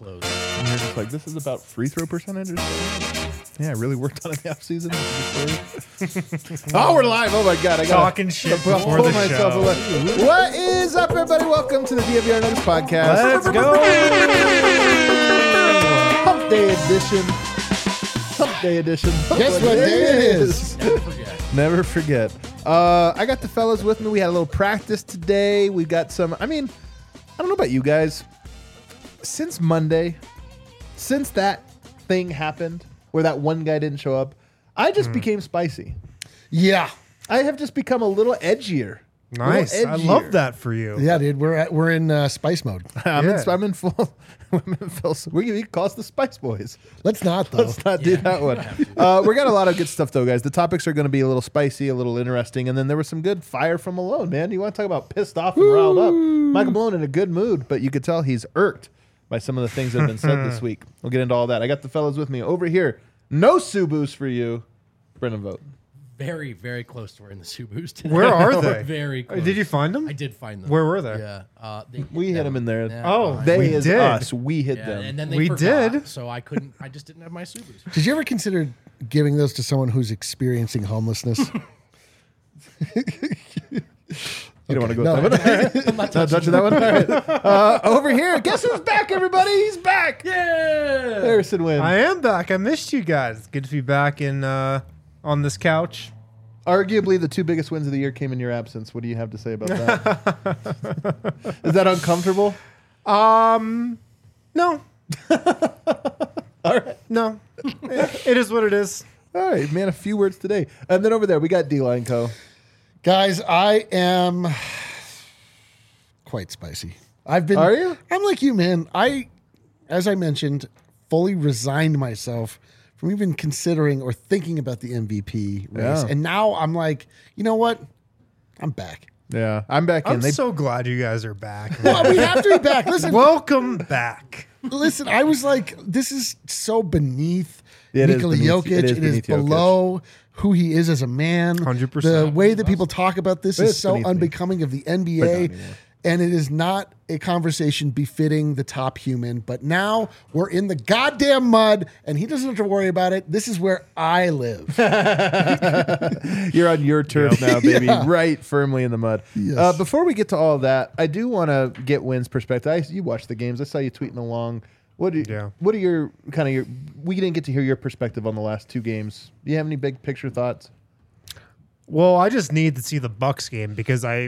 close. And you're just like, this is about free throw percentage or something? Yeah, I really worked on it in the offseason. Oh, we're live. Oh, my God. I got Talking shit before the show. away. What is up, everybody? Welcome to the DNVR Nuggets podcast. Let's go. Hump Day edition. Hump Day edition. Guess what day it is? Never forget. I got the fellas with me. We had a little practice today. We got some, I don't know about you guys. Since Monday, since that thing happened where that one guy didn't show up, I just became spicy. Yeah. I have just become a little edgier. Nice. A little I edgier. love that for you. Yeah, dude. We're in spice mode. I'm Yeah. in full. We can call us the Spice Boys. Let's not, though. Let's not do that one. We got a lot of good stuff, though, guys. The topics are going to be a little spicy, a little interesting, and then there was some good fire from Malone, man. You want to talk about pissed off and riled up? Michael Malone in a good mood, but you could tell he's irked by some of the things that have been said this week. We'll get into all that. I got the fellas with me over here. No Subus for you, Brendan Vogt. Very, very close to wearing the Subus today. Where are they? Very close. Did you find them? I did find them. Where were they? Yeah. We hit them in there. Yeah. Oh, They we is did. us. We hit Yeah, them. and then they We forgot, did. so I couldn't. I just didn't have my Subus. Did you ever consider giving those to someone who's experiencing homelessness? You don't want to go No. with that one? I'm not Not touching that one? All right. Over here. Guess who's back, everybody? He's back. Yeah. Harrison Wynn. I am back. I missed you guys. Good to be back in on this couch. Arguably, the two biggest wins of the year came in your absence. What do you have to say about that? Is that uncomfortable? No. All right. No. It is what it is. All right, man, a few words today. And then over there, we got D-Line Co. Guys, I am quite spicy. Are you? I'm like you, man. As I mentioned, fully resigned myself from even considering or thinking about the MVP race. Yeah. And now I'm like, you know what? I'm back. Yeah, I'm back in. I'm so glad you guys are back. Well, we have to be back. Listen, Welcome back. Listen, I was like, this is so beneath It is Nikola beneath- Jokic. it is It is beneath Jokic. below who he is as a man. 100%. The way that people talk about this It's is so beneath me. unbecoming of the But not NBA. anymore. And it is not a conversation befitting the top human. But now we're in the goddamn mud, and he doesn't have to worry about it. This is where I live. You're on your turf now, baby, Yeah. right firmly in the mud. Yes. Before we get to all of that, I do want to get Wynn's perspective. You watched the games. I saw you tweeting along. What are your we didn't get to hear your perspective on the last two games. Do you have any big picture thoughts? Well, I just need to see the Bucks game because I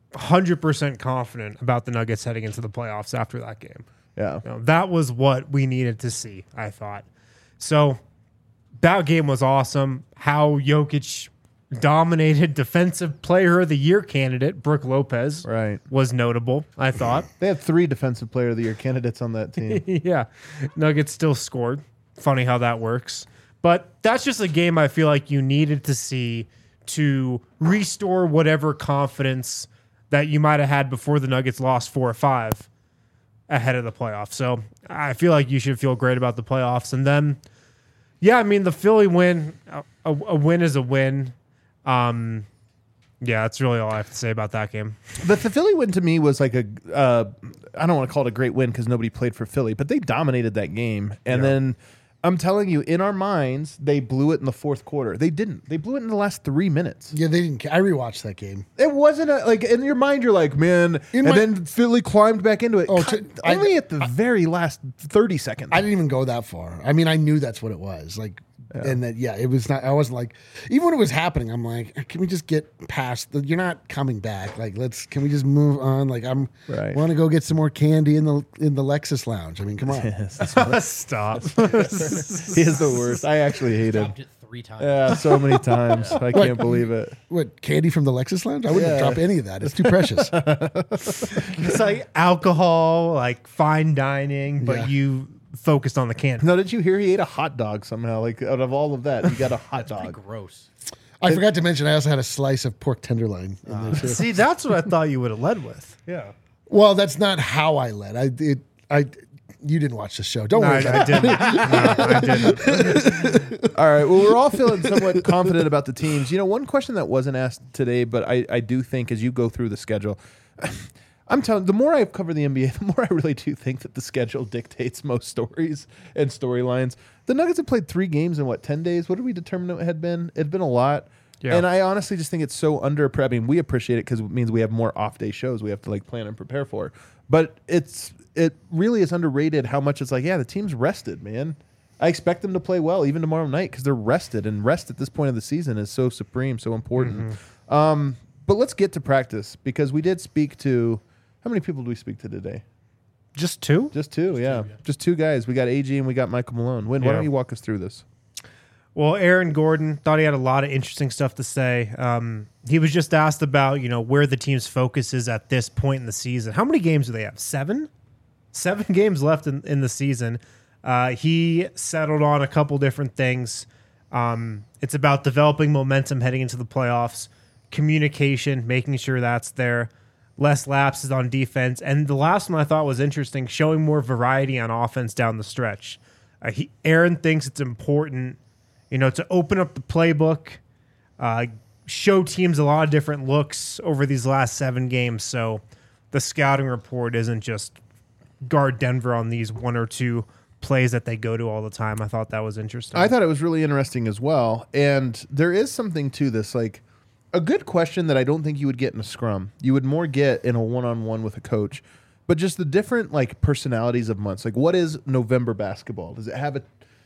100% confident about the Nuggets heading into the playoffs after that game. Yeah. You know, that was what we needed to see, I thought. So that game was awesome. How Jokic dominated defensive player of the year candidate, Brook Lopez, Right. was notable, I thought. They had 3 defensive player of the year candidates on that team. Yeah. Nuggets still scored. Funny how that works. But that's just a game I feel like you needed to see to restore whatever confidence that you might have had before the Nuggets lost 4 or 5 ahead of the playoffs. So I feel like you should feel great about the playoffs. And then, yeah, I mean, the Philly win, a win is a win. Yeah, that's really all I have to say about that game. But the Philly win to me was like I don't want to call it a great win because nobody played for Philly, but they dominated that game. And then I'm telling you, in our minds, they blew it in the fourth quarter. They didn't. They blew it in the last 3 minutes. Yeah, they didn't. I rewatched that game. It wasn't like in your mind, you're like, man, then Philly climbed back into it. Oh, Only at the very last 30 seconds. I didn't even go that far. I mean, I knew that's what it was. Like, and that, it was not, I wasn't like, even when it was happening, I'm like, can we just get past you're not coming back. Like, can we just move on? Like, Right. want to go get some more candy in the Lexus lounge. I mean, come on. Stop. He is the worst. I actually hate him. Dropped it 3 times. Yeah, so many times. I can't believe it. What, candy from the Lexus lounge? I wouldn't drop any of that. It's too precious. It's like alcohol, like fine dining, but Yeah. you focused on the can. No, did you hear he ate a hot dog somehow? Like out of all of that, he got a hot Pretty dog. gross. I forgot to mention, I also had a slice of pork tenderloin in there too. See, that's what I thought you would have led with. Yeah. Well, that's not how I led. You didn't watch the show. Don't No, worry about I it. didn't. No, I didn't. All right. Well, we're all feeling somewhat confident about the teams. You know, one question that wasn't asked today, but I do think as you go through the schedule, I'm telling. The more I've covered the NBA, the more I really do think that the schedule dictates most stories and storylines. The Nuggets have played 3 games in 10 days. What did we determine it had been? It'd been a lot. Yeah. And I honestly just think it's so under. I mean, we appreciate it because it means we have more off day shows we have to like plan and prepare for. But it really is underrated how much it's like. Yeah, the team's rested, man. I expect them to play well even tomorrow night because they're rested, and rest at this point of the season is so supreme, so important. But let's get to practice because we did speak to. How many people do we speak to today? Just 2? Just 2, yeah. Just 2 guys. We got AG and we got Michael Malone. Why don't you walk us through this? Well, Aaron Gordon thought he had a lot of interesting stuff to say. He was just asked about, where the team's focus is at this point in the season. How many games do they have? 7? 7 games left in the season. He settled on a couple different things. It's about developing momentum heading into the playoffs, communication, making sure that's there, less lapses on defense. And the last one I thought was interesting, showing more variety on offense down the stretch. Aaron thinks it's important, to open up the playbook, show teams a lot of different looks over these last 7 games. So the scouting report isn't just guard Denver on these 1 or 2 plays that they go to all the time. I thought that was interesting. I thought it was really interesting as well. And there is something to this, like a good question that I don't think you would get in a scrum. You would more get in a one-on-one with a coach. But just the different like personalities of months. Like what is November basketball? Does it have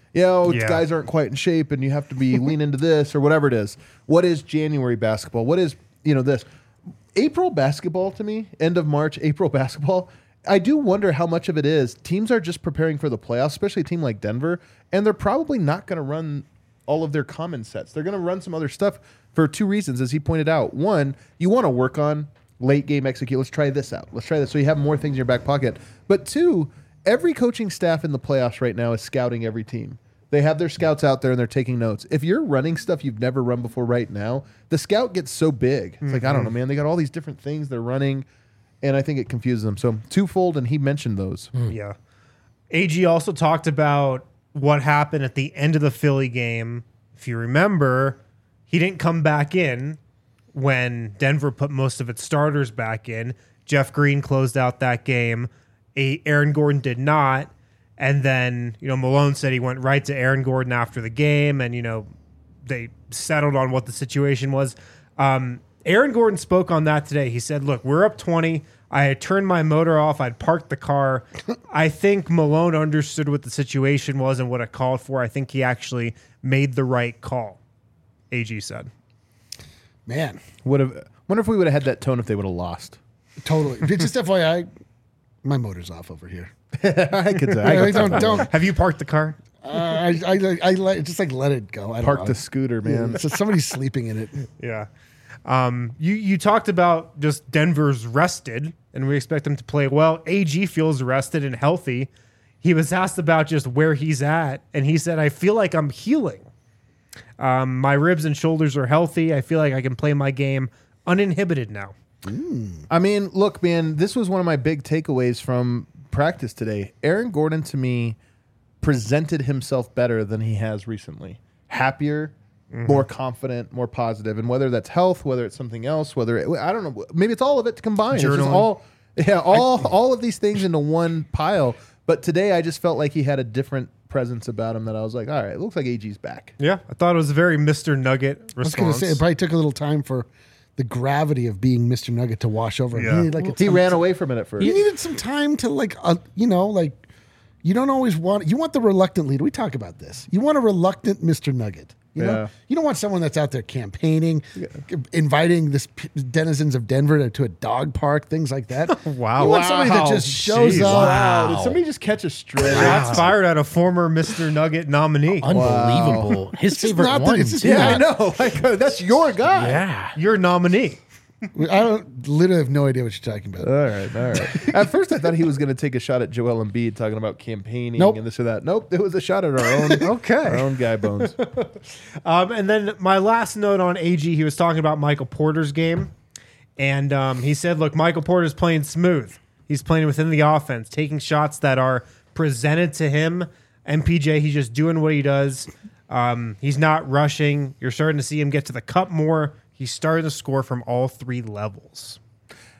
guys aren't quite in shape and you have to be lean into this or whatever it is. What is January basketball? What is, this? April basketball to me, end of March, April basketball, I do wonder how much of it is teams are just preparing for the playoffs, especially a team like Denver, and they're probably not going to run all of their common sets. They're going to run some other stuff for 2 reasons, as he pointed out. One, you want to work on late game execute. Let's try this out. Let's try this so you have more things in your back pocket. But 2, every coaching staff in the playoffs right now is scouting every team. They have their scouts out there and they're taking notes. If you're running stuff you've never run before right now, the scout gets so big. It's like, I don't know, man. They got all these different things they're running. And I think it confuses them. So twofold, and he mentioned those. Yeah. AG also talked about what happened at the end of the Philly game. If you remember, he didn't come back in when Denver put most of its starters back in. Jeff Green closed out that game. Aaron Gordon did not. And then, Malone said he went right to Aaron Gordon after the game, and, they settled on what the situation was. Aaron Gordon spoke on that today. He said, look, we're up 20. I had turned my motor off. I'd parked the car. I think Malone understood what the situation was and what it called for. I think he actually made the right call, AG said. Man. Wonder if we would have had that tone if they would have lost. Totally. Just FYI, my motor's off over here. I could say. Don't. Have you parked the car? I just let it go. I don't Park know. the scooter, man. So somebody's sleeping in it. Yeah. You talked about just Denver's rested, and we expect them to play well. AG feels rested and healthy. He was asked about just where he's at, and he said, I feel like I'm healing. My ribs and shoulders are healthy. I feel like I can play my game uninhibited now. I mean, look, man, this was one of my big takeaways from practice today. Aaron Gordon, to me, presented himself better than he has recently. Happier, more confident, more positive. And whether that's health, whether it's something else, I don't know, maybe it's all of it combined. It's just all of these things into one pile. But today I just felt like he had a different presence about him that I was like, all right, it looks like AG's back. Yeah, I thought it was a very Mr. Nugget response. I was going to say, it probably took a little time for the gravity of being Mr. Nugget to wash over him. Yeah. He needed, He ran away from it at first. You needed some time to you don't always want the reluctant leader. We talk about this. You want a reluctant Mr. Nugget. You know, you don't want someone that's out there campaigning, inviting the denizens of Denver to a dog park, things like that. Wow. You want somebody that just shows up. Wow. Did somebody just catch a stray? Shots fired at a former Mr. Nugget nominee. Unbelievable. His It's just favorite not that- one. it's just too. Yeah, I know. Like, that's your guy. Yeah. Your nominee. I literally have no idea what you're talking about. All right. At first, I thought he was going to take a shot at Joel Embiid, talking about campaigning Nope. and this or that. Nope, it was a shot at our own. Our own guy bones. And then my last note on AG, he was talking about Michael Porter's game. And he said, look, Michael Porter's playing smooth. He's playing within the offense, taking shots that are presented to him. MPJ, he's just doing what he does. He's not rushing. You're starting to see him get to the cup more. He's starting to score from all 3 levels.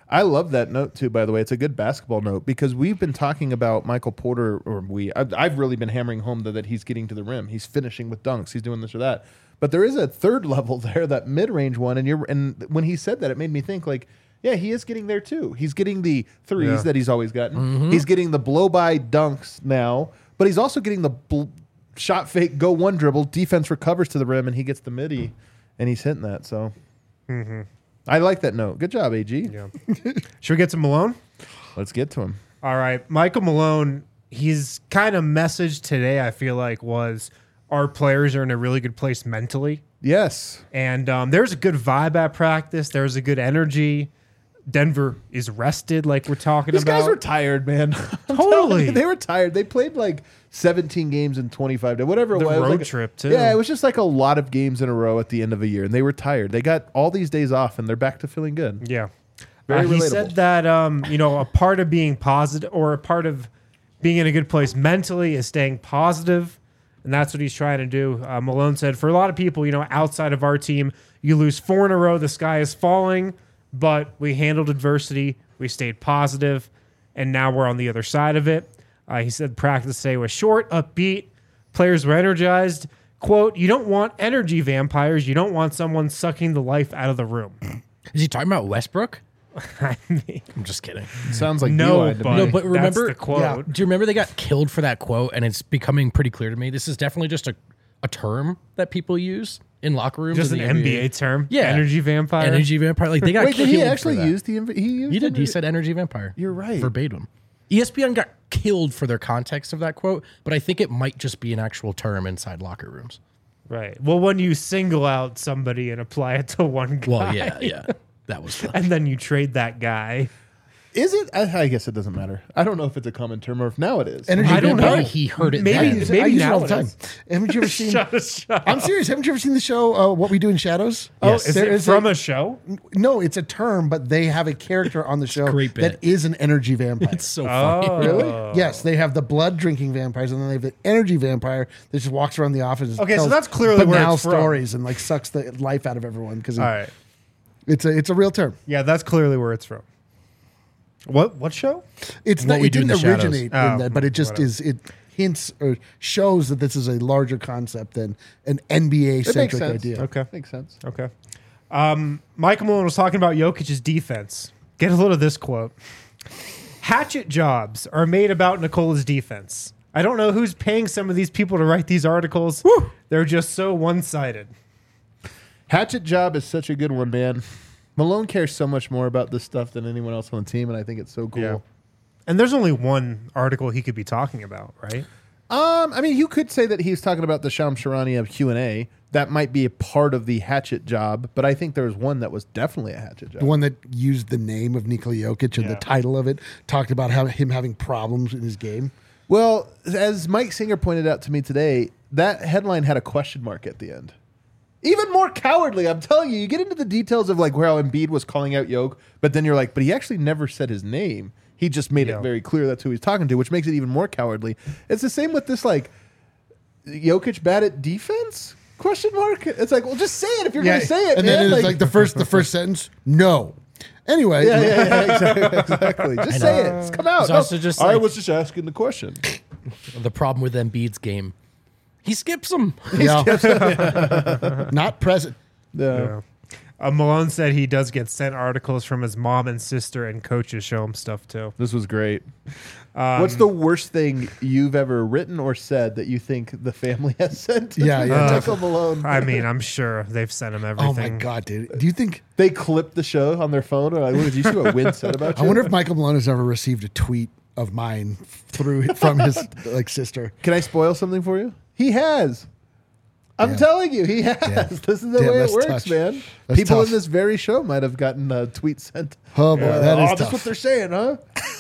I love that note too, by the way. It's a good basketball note because we've been talking about Michael Porter, or I've really been hammering home that he's getting to the rim. He's finishing with dunks. He's doing this or that. But there is a third level there, that mid-range one. And when he said that, it made me think like, yeah, he is getting there too. He's getting the threes that he's always gotten. He's getting the blow-by dunks now, but he's also getting the shot fake, go one dribble, defense recovers to the rim, and he gets the midi, and he's hitting that. So I like that note. Good job, AG. Yeah. Should we get to Malone? Let's get to him. All right. Michael Malone, his kind of message today, I feel like, was our players are in a really good place mentally. Yes. And there's a good vibe at practice. There's a good energy. Denver is rested, like we're talking These about. guys were tired, man. Totally. They were tired. They played like 17 games in 25 days, whatever it The was. road Like trip, too. Yeah, it was just like a lot of games in a row at the end of a year, and they were tired. They got all these days off, and they're back to feeling good. Yeah. Very He relatable. said that, a part of being positive or a part of being in a good place mentally is staying positive, and that's what he's trying to do. Malone said, for a lot of people, outside of our team, you lose 4 in a row, the sky is falling, but we handled adversity, we stayed positive, and now we're on the other side of it. He said practice today was short, upbeat, players were energized. Quote, you don't want energy vampires, you don't want someone sucking the life out of the room. Is he talking about Westbrook? I mean, I'm just kidding. Sounds like no, Eli to but, me. No, but remember- that's the quote. Yeah. Do you remember they got killed for that quote? And it's becoming pretty clear to me. This is definitely just a term that people use in locker rooms. Just in an the NBA term. Yeah. Energy vampire. Energy vampire. Like they got Wait, did killed he for actually that. use the? He used. He did. He energy- said energy vampire. You're right. Verbatim. ESPN got killed for their context of that quote, but I think it might just be an actual term inside locker rooms. Right. Well, when you single out somebody and apply it to one guy, Well, yeah. That was fun. and then you trade that guy. Is it? I guess it doesn't matter. I don't know if it's a common term or if now it is. Energy I don't vampire. know. He heard it Maybe- then. maybe I use it now all the it time. is. Haven't you ever seen? Shut I'm serious. Haven't you ever seen the show What We Do in Shadows? Yes. Is There it is from a show? No, it's a term, but they have a character on the show great that bit. is an energy vampire. It's so funny. Oh. Yes, they have the blood drinking vampires, and then they have the energy vampire that just walks around the office. And Okay, so tells that's clearly where banal it's from. stories and like sucks the life out of everyone because All right. it's a real term. Yeah, that's clearly where it's from. What show? It's What not. We It Do in didn't the Shadows. originate Oh, in that, but it just whatever. is. It hints or shows that this is a larger concept than an NBA It makes centric sense. idea. Okay. Makes sense. Okay. Michael Malone was talking about Jokic's defense. Get a load of this quote. Hatchet jobs are made about Nikola's defense. I don't know who's paying some of these people to write these articles. They're just so one-sided. Hatchet job is such a good one, man. Malone cares so much more about this stuff than anyone else on the team, and I think it's so cool. Yeah. And there's only one article he could be talking about, right? I mean, you could say that he's talking about the Shams Charania Q&A. That might be a part of the hatchet job, but I think there was one that was definitely a hatchet job. The one that used the name of Nikola Jokic and Yeah. the title of it talked about him having problems in his game. Well, as Mike Singer pointed out to me today, that headline had a question mark at the end. Even more cowardly, I'm telling you. You get into the details of like where how Embiid was calling out Jokic, but then you're like, but he actually never said his name. He just made Yeah. it very clear that's who he's talking to, which makes it even more cowardly. It's the same with this, like, Jokic bad at defense? Question mark. It's like, well, just say it if you're going to say it, and man. then it's like the first sentence. No. Anyway, yeah, exactly. Just say it. Just come out. It's also just I like- was just asking the question. The problem with Embiid's game, he skips them. yeah. Not present. Yeah. Malone said he does get sent articles from his mom and sister, and coaches show him stuff too. This was great. What's the worst thing you've ever written or said that you think the family has sent? Yeah, yeah, Michael Malone. I mean, I'm sure they've sent him Oh everything. my God, dude. Do you think? They clipped the show on their phone. Or like, look, did you see what Win said about you? I wonder if Michael Malone has ever received a tweet of mine from his like sister. Can I spoil something for you? He has. I'm Damn. telling you, he has. Damn. This is the Damn, way it that's works, tough. man. That's People tough. in this very show might have gotten a tweet sent. Oh boy, that is that's tough. what they're saying, huh?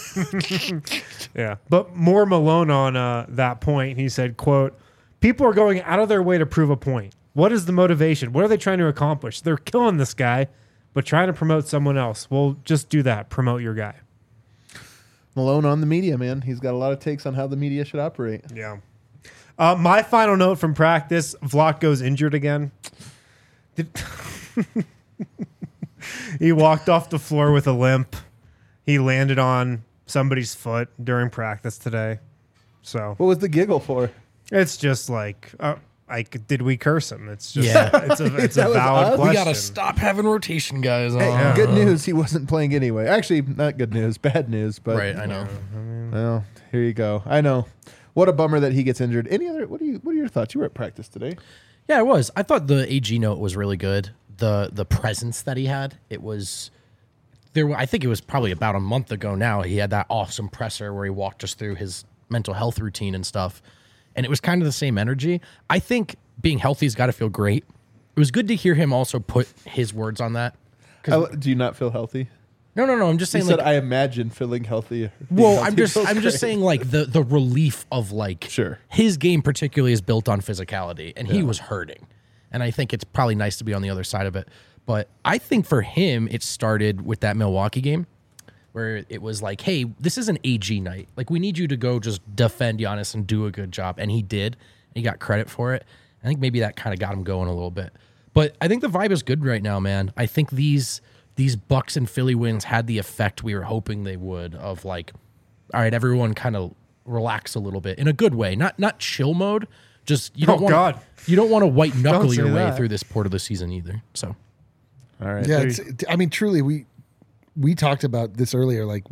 Yeah, but more Malone on that point. He said, "quote People are going out of their way to prove a point. What is the motivation? What are they trying to accomplish? They're killing this guy, but trying to promote someone else. Well, just do that. Promote your guy." Malone on the media, man. He's got a lot of takes on how the media should operate. Yeah. My final note from practice: Vlatko's injured again. He walked off the floor with a limp. He landed on somebody's foot during practice today. So What was the giggle for? it's just like, did we curse him? It's just, Yeah. it's a That was valid us? question. We gotta stop having rotation guys on. Hey, good news, he wasn't playing anyway. Actually, not good news, bad news. But Right, I know. well, here you go. I know. What a bummer that he gets injured. Any other? What are your thoughts? You were at practice today. Yeah, it was. I thought the AG note was really good. The presence that he had, it was there. I think it was probably about a month ago now. He had that awesome presser where he walked us through his mental health routine and stuff, and it was kind of the same energy. I think being healthy's got to feel great. It was good to hear him also put his words on that. Do you not feel healthy? No. I'm just He saying. said, Like, "I imagine feeling healthy." well, I'm just saying like the relief of like Sure. his game particularly is built on physicality, and he was hurting, and I think it's probably nice to be on the other side of it. But I think for him, it started with that Milwaukee game where it was like, hey, this is an AG night. Like, we need you to go just defend Giannis and do a good job. And he did. And he got credit for it. I think maybe that kind of got him going a little bit. But I think the vibe is good right now, man. I think these Bucks and Philly wins had the effect we were hoping they would of like, all right, everyone kind of relax a little bit in a good way. Not chill mode. Just you don't want you don't want to white knuckle Don't say your way that. through this part of the season either. So All right. Yeah, I mean, truly, we talked about this earlier. Like,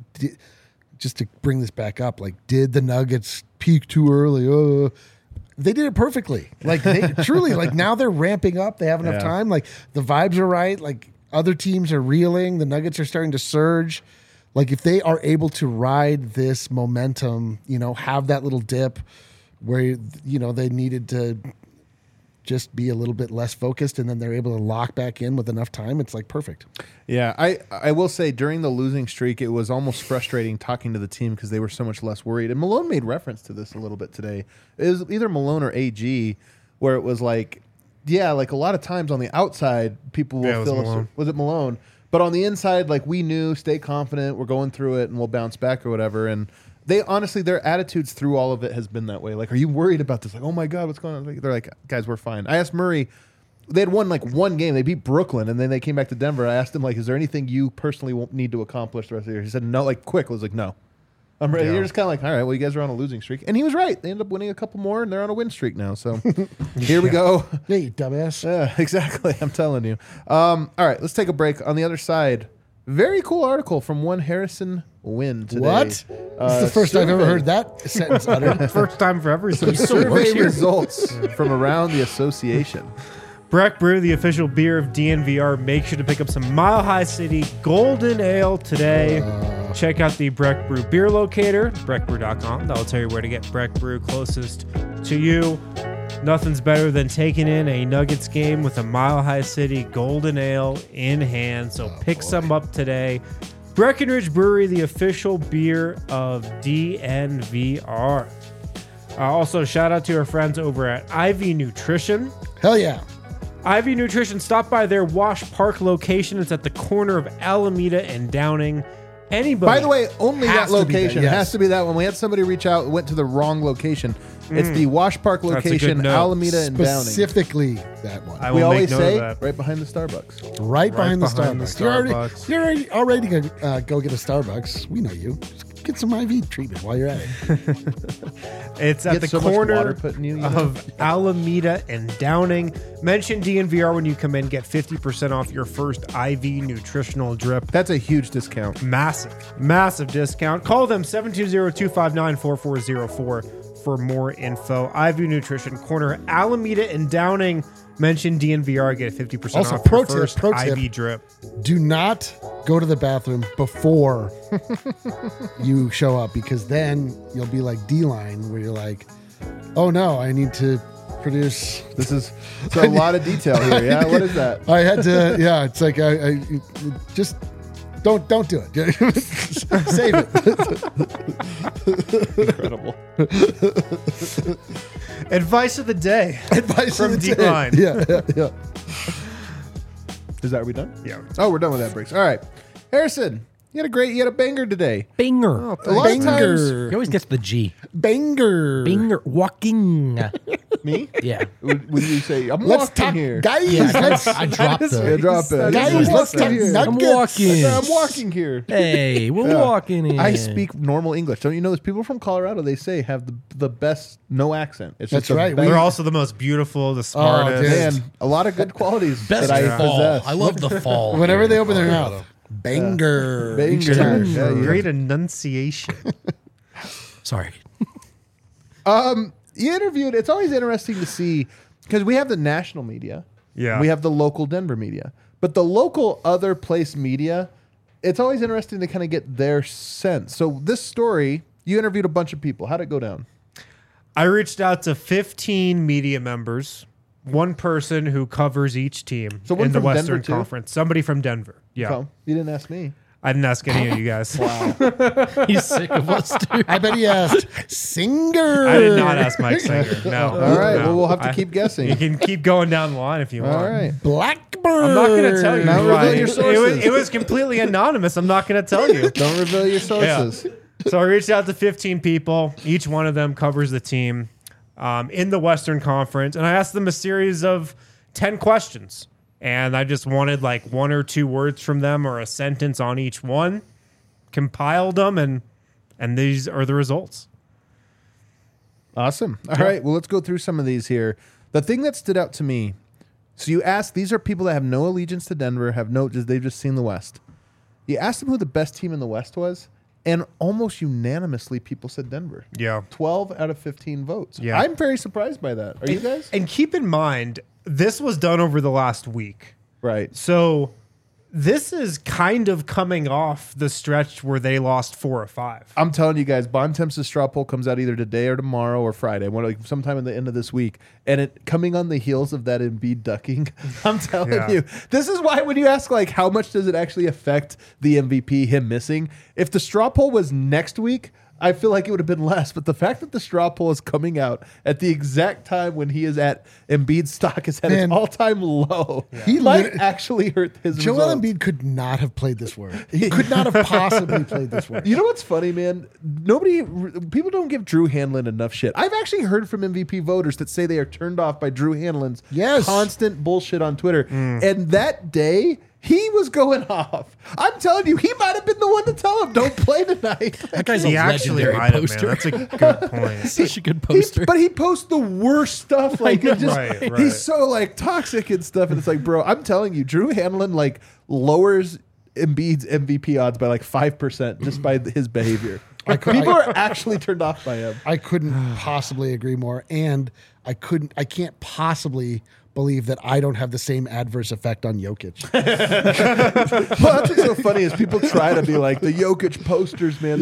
just to bring this back up, like, did the Nuggets peak too early? They did it perfectly. Like, they truly, like, now they're ramping up. They have enough time. Like, the vibes are right. Like, other teams are reeling. The Nuggets are starting to surge. Like, if they are able to ride this momentum, have that little dip where they needed to just be a little bit less focused, and then they're able to lock back in with enough time, it's like perfect. Yeah, I will say during the losing streak, it was almost frustrating talking to the team because they were so much less worried. And Malone made reference to this a little bit today. It was either Malone or AG where it was like, yeah, like a lot of times on the outside, people will feel Malone. Was it Malone? But on the inside, like we knew, stay confident, we're going through it and we'll bounce back or whatever. And they honestly, their attitudes through all of it has been that way. Like, are you worried about this? Like, oh my God, what's going on? Like, they're like, guys, we're fine. I asked Murray, they had won like one game. They beat Brooklyn and then they came back to Denver. I asked him, like, is there anything you personally won't need to accomplish the rest of the year? He said, no, like quick. I was like, no. I'm ready. Yeah. You're just kind of like, all right, well, you guys are on a losing streak. And he was right. They ended up winning a couple more and they're on a win streak now. So here we go. Yeah, you dumbass. Yeah, exactly. I'm telling you. All right, let's take a break. On the other side, very cool article from one Harrison Wynn today. What? This is the first I've ever heard that sentence uttered. First time for everything. Survey results from around the association. Breck Brew, the official beer of DNVR. Make sure to pick up some Mile High City Golden Ale today. Check out the Breck Brew beer locator, breckbrew.com. That'll tell you where to get Breck Brew closest to you. Nothing's better than taking in a Nuggets game with a Mile High City Golden Ale in hand. So pick some up today. Breckenridge Brewery, the official beer of DNVR. Also, shout out to our friends over at Ivy Nutrition. Hell yeah. Ivy Nutrition, stop by their Wash Park location. It's at the corner of Alameda and Downing. Anybody. By the way, only that Has to be that, location. yes. It has to be that one. We had somebody reach out and went to the wrong location. It's the Wash Park That's a good location, note. Alameda and Downing. Specifically that one. I We will always make note say of that. right behind the Starbucks. right behind the behind the Starbucks. Starbucks. You're already going to go get a Starbucks. We know you. Just get some IV treatment while you're at it. It's at Get the so much corner water put in you, you know? of Alameda and Downing. Mention DNVR when you come in. Get 50% off your first IV nutritional drip. That's a huge discount. Massive discount. Call them 720-259-4404 for more info. IV Nutrition, corner Alameda and Downing. Mention DNVR, get 50% Also, off pro your tip, first pro IV tip. drip. Do not go to the bathroom before you show up, because then you'll be like D-Line, where you're like, oh no, I need to produce. This is so a lot of detail here. Yeah, what is that? I had to, yeah, it's like, I just don't do it. Save it. Incredible. Advice of the day. Advice From of the day. D-Line. Yeah. Is that, are we done? Yeah. Oh, we're done with that breaks. All right. Harrison, you had a banger today. Banger. A lot of times, He always gets the G. Banger. Banger. Walking. Me? Yeah. When you say, I'm Let's walking talk, here. guys. Yeah, let's, I dropped Yeah, the. drop it. guys, let's talk here. I'm nuggets. walking. I'm walking here. Hey, we're Yeah. walking in. I speak normal English. Don't you know? There's people from Colorado. They say have the best no accent. It's That's just the right. best- They're also the most beautiful, the smartest. dude. Man, a lot of good qualities Best that I fall. possess. I love the fall. Whenever here they in open their Colorado. mouth, banger. Banger. Each time. Yeah, yeah. Great enunciation. Sorry. You interviewed. It's always interesting to see because we have the national media. Yeah. We have the local Denver media, but the local other place media. It's always interesting to kind of get their sense. So this story, you interviewed a bunch of people. How'd it go down? I reached out to 15 media members, one person who covers each team So one in the from Western Denver, too? Conference. Somebody from Denver. Yeah. So, you didn't ask me. I didn't ask any of you guys. He's sick of us, dude. I bet he asked Singer. I did not ask Mike Singer. No. All right. No. Well, we'll have to keep guessing. You can keep going down the line if you want. All right. Blackbird. I'm not going to tell you. Now reveal Ryan. your It sources. was completely anonymous. I'm not going to tell you. Don't reveal your sources. So I reached out to 15 people. Each one of them covers the team in the Western Conference. And I asked them a series of 10 questions. And I just wanted like one or two words from them or a sentence on each one. Compiled them, and these are the results. Awesome. All right. Well, let's go through some of these here. The thing that stood out to me. So you asked, these are people that have no allegiance to Denver, they've just seen the West. You asked them who the best team in the West was, and almost unanimously people said Denver. Yeah. 12 out of 15 votes. Yeah. I'm very surprised by that. Are you guys? And keep in mind, this was done over the last week. Right. So this is kind of coming off the stretch where they lost 4 or 5. I'm telling you guys, Bontemps' straw poll comes out either today or tomorrow or Friday, sometime at the end of this week. And it coming on the heels of that Embiid ducking, I'm telling Yeah. you, this is why when you ask like how much does it actually affect the MVP, him missing, if the straw poll was next week, I feel like it would have been less. But the fact that the straw poll is coming out at the exact time when he is at Embiid's stock is at Man. its all-time low, He might lit- actually hurt his Joel results. Embiid could not have played this word. He could not have possibly played this word. You know what's funny, man? People don't give Drew Hanlon enough shit. I've actually heard from MVP voters that say they are turned off by Drew Hanlon's Yes. constant bullshit on Twitter. And that day, he was going off. I'm telling you, he might have been the one to tell him, don't play tonight. That guy's a He actually legendary might have, man. poster. That's a good point. Such a good poster. But he posts the worst stuff. Like it just, Right, right. he's so like toxic and stuff. And it's like, bro, I'm telling you, Drew Hanlon like lowers Embiid's MVP odds by like 5% just by his behavior. People are actually turned off by him. I couldn't possibly agree more, and I can't possibly believe that I don't have the same adverse effect on Jokic. Well, that's what's so funny is people try to be like the Jokic posters, man.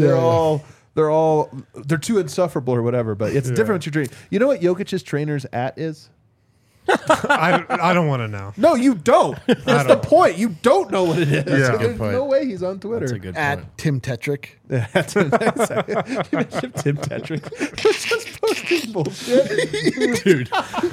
They're too insufferable or whatever. But it's different with your training. You know what Jokic's trainer's at is? I don't want to know. No, you don't. That's the point. You don't know what it is. Yeah. So Good there's point. no way he's on Twitter. That's a good point. At Tim Tetrick. You mentioned Tim Tetrick. He's just posting bullshit. Dude.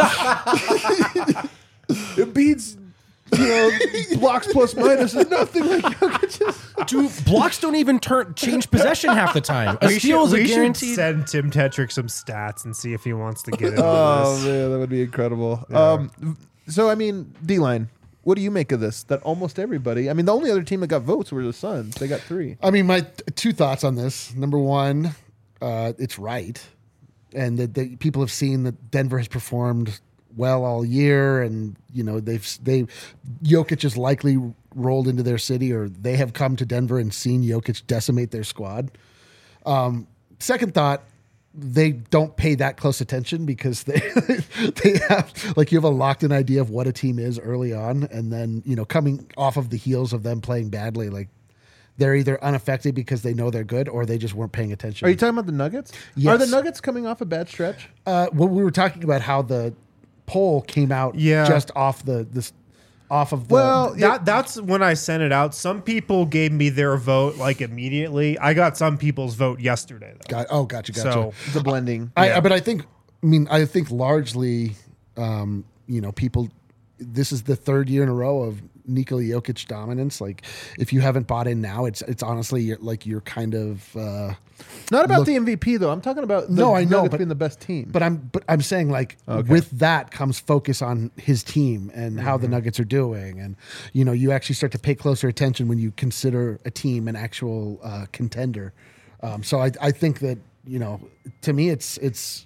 Embiid's, blocks plus minus is nothing like Jokic's. Dude, blocks don't even change possession half the time. A steal is a we should guaranteed. send Tim Tetrick some stats and see if he wants to get into Oh this. man, that would be incredible. So I mean, D-line, what do you make of this? That almost everybody. I mean, the only other team that got votes were the Suns. They got 3. I mean, my two thoughts on this. Number one, it's right, and that people have seen that Denver has performed well all year, and Jokic is likely rolled into their city, or they have come to Denver and seen Jokic decimate their squad. Second thought, they don't pay that close attention because they have you have a locked in idea of what a team is early on, and then coming off of the heels of them playing badly, like they're either unaffected because they know they're good, or they just weren't paying attention. Are you talking about the Nuggets? Yes. Are the Nuggets coming off a bad stretch? Well, we were talking about how the poll came out just off of the That's when I sent it out. Some people gave me their vote like immediately. I got some people's vote yesterday though. Gotcha. So The blending. But I think largely, people, this is the third year in a row of Nikola Jokic dominance. Like, if you haven't bought in now, it's honestly like you're kind of Not about the MVP though. I'm talking about the No, I know, Nuggets but- being the best team. But I'm saying, like, with that comes focus on his team and how the Nuggets are doing, and you actually start to pay closer attention when you consider a team an actual contender. So I think that to me it's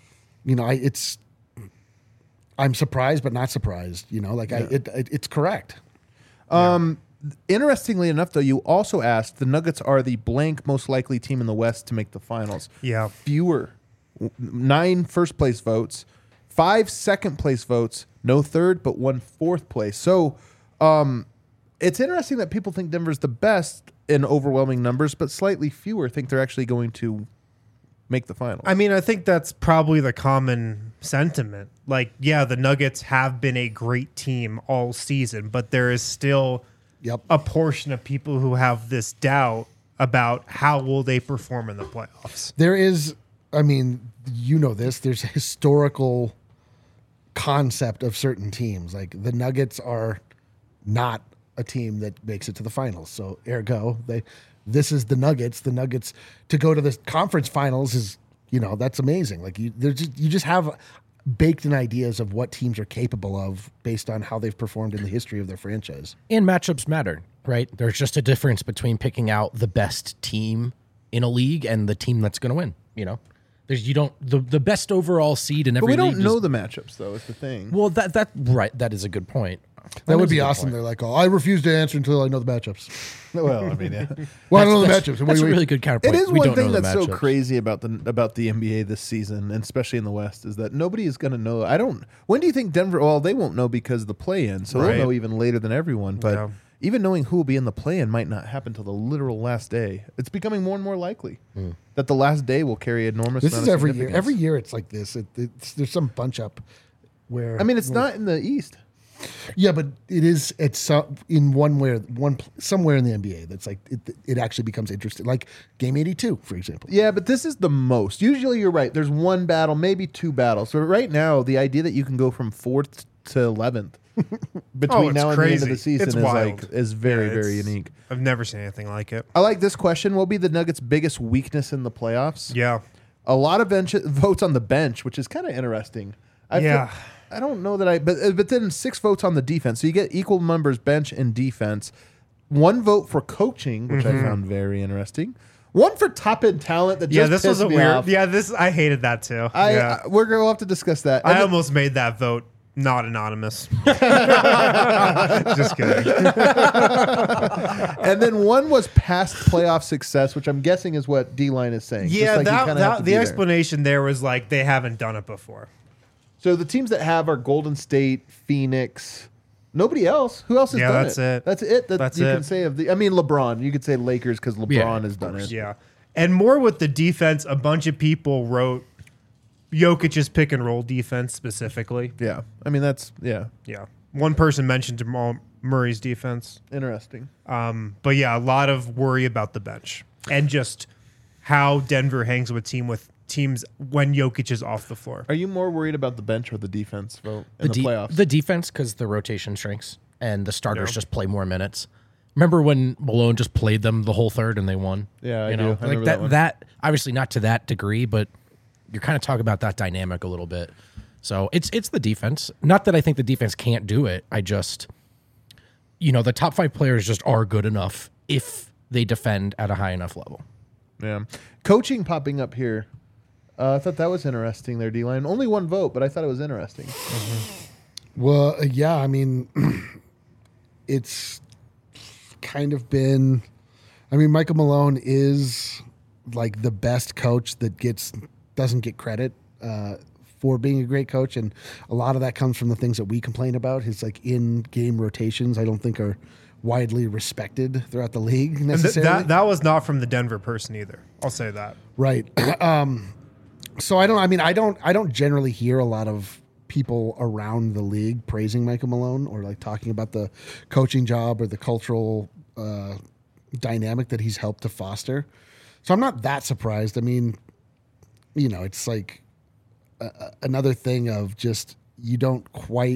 I'm surprised but not surprised. It's correct. Interestingly enough, though, you also asked the Nuggets are the blank most likely team in the West to make the finals. Yeah. Fewer, 9 first place votes, 5 second place votes, no third, but 1 fourth place. So it's interesting that people think Denver's the best in overwhelming numbers, but slightly fewer think they're actually going to make the finals. I mean, I think that's probably the common sentiment. Like, yeah, the Nuggets have been a great team all season, but there is still a portion of people who have this doubt about how will they perform in the playoffs. There is, I mean, there's a historical concept of certain teams. Like, the Nuggets are not a team that makes it to the finals. So ergo, this is the Nuggets. The Nuggets to go to the conference finals is, that's amazing. Like, you just have baked in ideas of what teams are capable of based on how they've performed in the history of their franchise. And matchups matter, right? There's just a difference between picking out the best team in a league and the team that's going to win. The best overall seed in but every we league. don't know the matchups, though, is the thing. Well, that is a good point. That would is be a good awesome. point. They're like, I refuse to answer until I know the matchups. Well, I mean, yeah. Well, I don't know the That's matchups. a really good counterpoint. It is We one don't thing know the that's so matchups. crazy about the NBA this season, and especially in the West, is that nobody is going to know. When do you think Denver? Well, they won't know because of the play-in, so Right. they'll know even later than everyone. But Yeah. even knowing who will be in the play-in might not happen till the literal last day. It's becoming more and more likely that the last day will carry enormous. This amount is of every year. significance. Every year it's like this. There's some bunch up where. I mean, it's not in the East. Yeah, but it is. It's in somewhere in the NBA that's like it actually becomes interesting. Like Game 82, for example. Yeah, but this is the most. Usually, you're right. There's one battle, maybe 2 battles. So right now, the idea that you can go from 4th to 11th between it's now and the end of crazy. the season It's is wild. is very, Yeah, very it's- unique. I've never seen anything like it. I like this question. What will be the Nuggets' biggest weakness in the playoffs? Yeah. A lot of votes on the bench, which is kind of interesting. I don't know that but then 6 votes on the defense. So you get equal numbers bench and defense. 1 vote for coaching, which I found very interesting. 1 for top end talent that just This was pissed a me weird. off. Yeah, I hated that too. We're going to have to discuss that. I And then- almost made that vote not anonymous. Just kidding. and then 1 was past playoff success, which I'm guessing is what D-Line is saying. Just Yeah, like you kinda have to the be there. explanation there was like they haven't done it before. So the teams that have are Golden State, Phoenix, nobody else. Who else has Yeah, done that's it? it. That's it. That's you it. can say of the. I mean, LeBron. You could say Lakers because LeBron Yeah, has done it. Yeah. And more with the defense, a bunch of people wrote Jokic's pick and roll defense specifically. Yeah. I mean, that's Yeah. One person mentioned Jamal Murray's defense. interesting. But yeah, a lot of worry about the bench and just how Denver hangs with teams when Jokic is off the floor. Are you more worried about the bench or the defense vote in the playoffs? The defense, because the rotation shrinks and the starters just play more minutes. Remember when Malone just played them the whole third and they won? Yeah, I you do. know, I like remember that. that one. That obviously not to that degree, but you're kind of talking about that dynamic a little bit. So it's the defense. Not that I think the defense can't do it. I just, the top 5 players just are good enough if they defend at a high enough level. Yeah. Coaching popping up here. I thought that was interesting there, D-Line. Only 1 vote, but I thought it was interesting. Well, yeah, I mean, it's kind of been. I mean, Michael Malone is like the best coach that doesn't get credit for being a great coach, and a lot of that comes from the things that we complain about. His like in-game rotations, I don't think are widely respected throughout the league And necessarily. that was not from the Denver person either. I'll say that. Right. So I don't generally hear a lot of people around the league praising Michael Malone or like talking about the coaching job or the cultural dynamic that he's helped to foster. So I'm not that surprised. I mean, it's like another thing of just you don't quite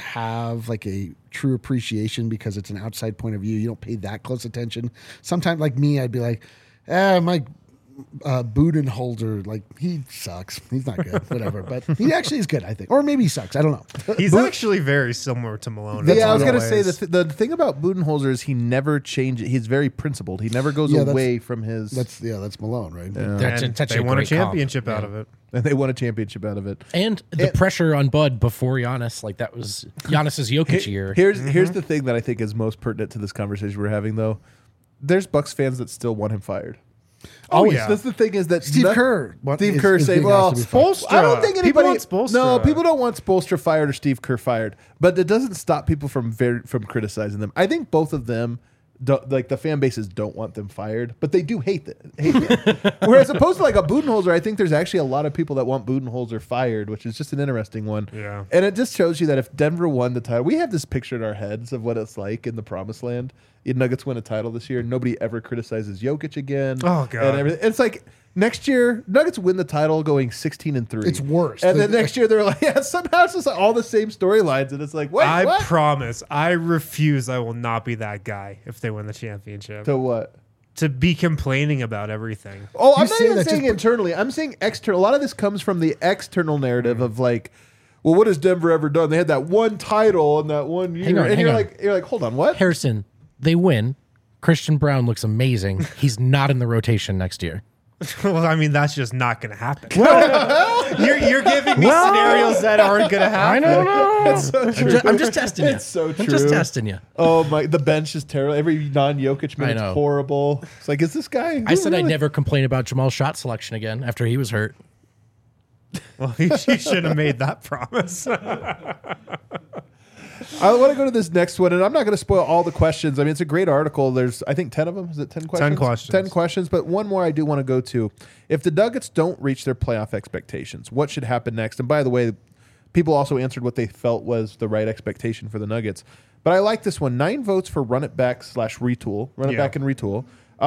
have like a true appreciation because it's an outside point of view. You don't pay that close attention. Sometimes, like me, I'd be like, my Budenholzer, like he sucks. He's not good, whatever. But he actually is good, I think. Or maybe he sucks. I don't know. He's actually very similar to Malone. Yeah, I was going going to say the thing about Budenholzer is he never changes. He's very principled. He never goes away from his. That's Malone, right? That's they a won a great comp. championship out of it. And they won a championship out of it. And the pressure on Bud before Giannis, like that was Giannis's Jokic year. Here's the thing that I think is most pertinent to this conversation we're having, though. There's Bucks fans that still want him fired. Oh, yeah. That's the thing is that Steve Kerr saying, well, Spoelstra. I don't think anybody People want Spoelstra. No, people don't want Spoelstra fired or Steve Kerr fired, but it doesn't stop people from criticizing them. I think both of them, like the fan bases, don't want them fired, but they do hate them. Whereas opposed to like a Budenholzer, I think there's actually a lot of people that want Budenholzer fired, which is just an interesting one. Yeah. And it just shows you that if Denver won the title, we have this picture in our heads of what it's like in the Promised Land. If Nuggets win a title this year, nobody ever criticizes Jokic again. Oh, God. And everything. It's like next year, Nuggets win the title going 16-3. It's worse. And then next year they're like, yeah, somehow it's just like all the same storylines, and it's like, wait, I what? promise. I refuse. I will not be that guy if they win the championship. To what? To be complaining about everything. Oh, I'm You not say even that saying just- internally. I'm saying external. A lot of this comes from the external narrative of like, well, what has Denver ever done? They had that one title in that one year, and hang you're on. like, hold on, what? Harrison, they win. Christian Brown looks amazing. He's not in the rotation next year. Well, I mean, that's just not going to happen. You're giving me scenarios that aren't going to happen. I don't know. It's so true. I'm just testing you. It's so I'm just true. testing you. Oh my! The bench is terrible. Every non-Jokic I minute's know. horrible. It's like, is this guy? I said I'd really- never complain about Jamal's shot selection again after he was hurt. Well, you should have made that promise. I want to go to this next one, and I'm not going to spoil all the questions. I mean, it's a great article. There's, I think, 10 of them. Is it 10 questions? 10 questions. 10 questions, but one more I do want to go to. If the Nuggets don't reach their playoff expectations, what should happen next? And by the way, people also answered what they felt was the right expectation for the Nuggets. But I like this one. 9 votes for run it back / retool. Run it Yeah. back and retool.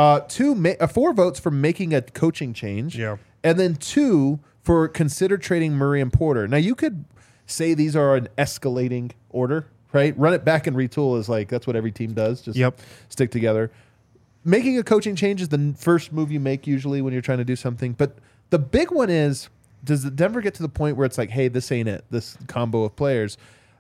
4 votes for making a coaching change. Yeah. And then 2 for consider trading Murray and Porter. Now, you could say these are an escalating order, right? Run it back and retool is like, that's what every team does. Just stick together. Making a coaching change is the first move you make usually when you're trying to do something. But the big one is, does the Denver get to the point where it's like, hey, this ain't it, this combo of players?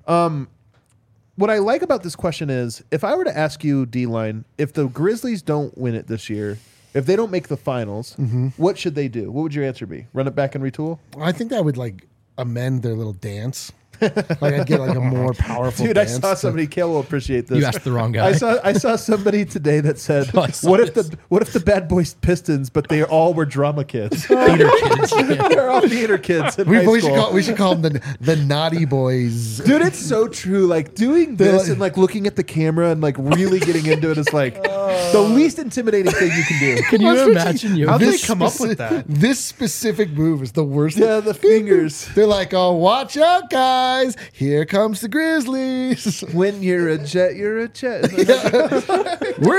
What I like about this question is, if I were to ask you, D-Line, if the Grizzlies don't win it this year, if they don't make the finals, what should they do? What would your answer be? Run it back and retool? I think that would like amend their little dance. Like I'd get like a more powerful Dude, I dance. saw somebody. Kale will appreciate this. You asked the wrong guy. I saw somebody today that said, Oh, I saw "What if this. the Bad Boys Pistons, but they all were drama kids? Theater kids. Yeah. They're all theater kids in high We school." should call them the naughty boys. Dude, it's so true. Like doing this and like looking at the camera and like really getting into it is like the least intimidating thing you can do. Can you imagine you? How'd they This come up with that? This specific move is the worst. Yeah, the fingers. They're like, oh, watch out, guys. Here comes the Grizzlies. When you're a jet, you're a jet. We're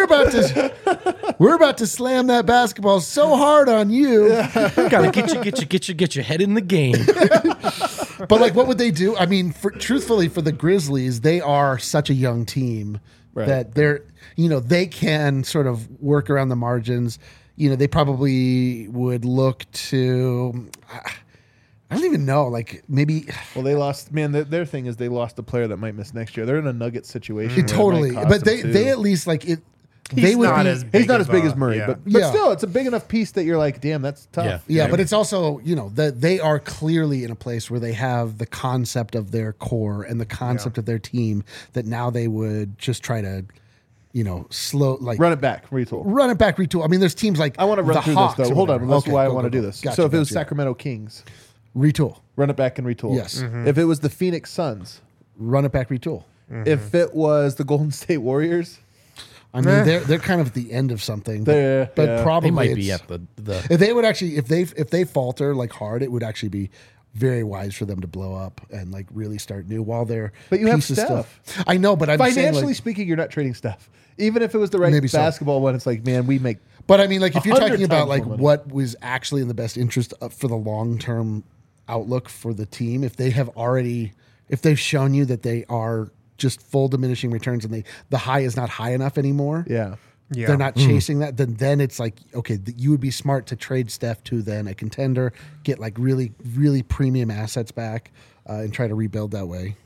about to slam that basketball so hard on you. Gotta get your head in the game. But like, what would they do? I mean, truthfully, for the Grizzlies, they are such a young team that they can sort of work around the margins. They probably would look to. I don't even know. Like maybe. Well, they lost. Man, their thing is they lost a player that might miss next year. They're in a Nugget situation. where it Totally, might cost but them they too. at least like it. He's not as He's not as big as Murray, yeah. but Yeah. still, it's a big enough piece that you're like, damn, that's tough. Yeah, but it's also, that they are clearly in a place where they have the concept of their core and the concept of their team that now they would just try to, slow, like Run it back, retool. run it back, retool. I mean, there's teams like I want to run the through Hawks this or though. Hold on, whatever. that's Okay, why I go, want to go, do go. this. Gotcha, So if it was gotcha. Sacramento Kings, Retool, run it back and retool. Yes. If it was the Phoenix Suns, run it back, retool. if it was the Golden State Warriors, I mean, they're kind of at the end of something, They're- but yeah. probably They might be it's- at the If they would actually, if they falter like hard, it would actually be very wise for them to blow up and like really start new while they're. But you have pieces Steph. still- I know, but I'm saying, financially like, speaking, you're not trading stuff. Even if it was the right Maybe so. basketball one, it's like, man, we make. But I mean, like if you're 100 talking about times like more money. what was actually in the best interest for the long term outlook for the team, if they have already if they've shown you that they are just full diminishing returns and the high is not high enough anymore. Yeah. Yeah. They're not chasing that. Then it's like, okay, you would be smart to trade Steph to then a contender, get like really, really premium assets back, and try to rebuild that way.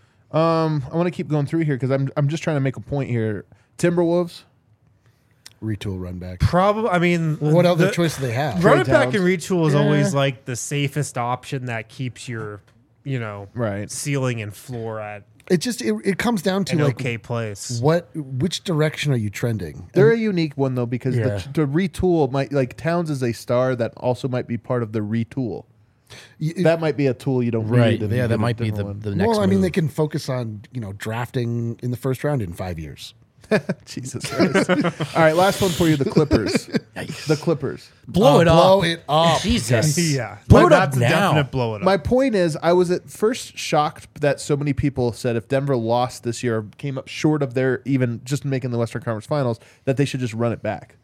I want to keep going through here because I'm just trying to make a point here. Timberwolves. Retool, run back. Probably. I mean, What other choice do they have? Run it back Towns. and retool is always like the safest option that keeps your, Right. ceiling and floor at It comes down to an like okay place. which direction are you trending? They're a unique one though because Yeah. the retool might like Towns is a star that also might be part of the retool. That might be a tool you don't Right. need. Yeah, and that a might be different the one. next Well, I mean, move. they can focus on drafting in the first round in 5 years. Jesus Christ. All right, last one for you: the Clippers. The Clippers. blow it up. Blow it up. Jesus. Yeah. Blow it up That's a now. definite blow it up. My point is, I was at first shocked that so many people said if Denver lost this year, came up short of their even just making the Western Conference Finals, that they should just run it back.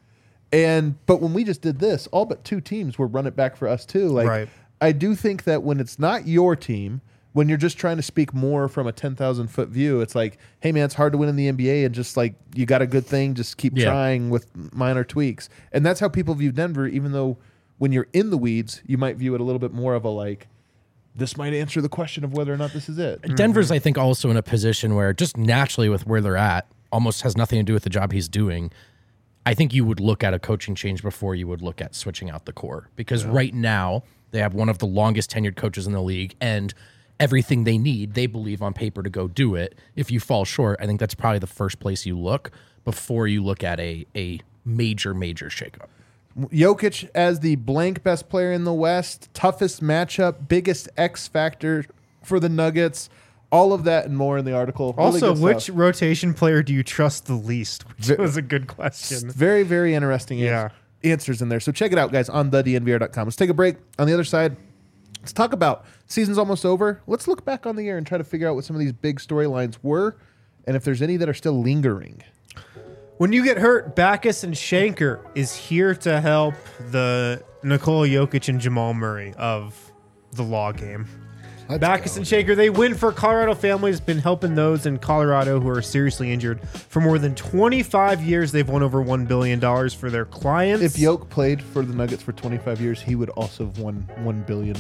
But when we just did this, all but 2 teams were run it back for us too. Like, Right. I do think that when it's not your team, when you're just trying to speak more from a 10,000-foot view, it's like, hey man, it's hard to win in the NBA, and just like you got a good thing, just keep Yeah. trying with minor tweaks. And that's how people view Denver, even though when you're in the weeds, you might view it a little bit more of a like, this might answer the question of whether or not this is it. Denver's, I think, also in a position where just naturally with where they're at, almost has nothing to do with the job he's doing. I think you would look at a coaching change before you would look at switching out the core. Because right now, they have one of the longest tenured coaches in the league, and everything they need, they believe on paper to go do it. If you fall short, I think that's probably the first place you look before you look at a major shakeup. Jokic as the blank best player in the West, toughest matchup, biggest X factor for the Nuggets. All of that and more in the article. Really Also, good which stuff. rotation player do you trust the least? Which was a good question. Very, very interesting Yeah. answers in there. So check it out, guys, on thednvr.com. Let's take a break. On the other side, let's talk about season's almost over. Let's look back on the year and try to figure out what some of these big storylines were and if there's any that are still lingering. When you get hurt, Backus and Shanker is here to help the Nikola Jokic and Jamal Murray of the law game. Let's Backus go. and Shanker, they win for Colorado families, been helping those in Colorado who are seriously injured. For more than 25 years, they've won over $1 billion for their clients. If Yoke played for the Nuggets for 25 years, he would also have won $1 billion.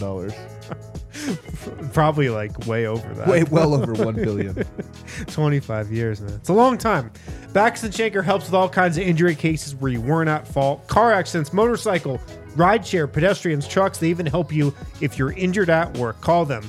Probably like way over that. Way well over $1 billion. 25 years, man. It's a long time. Backus and Shanker helps with all kinds of injury cases where you weren't at fault. Car accidents, motorcycle, rideshare, pedestrians, trucks. They even help you if you're injured at work. Call them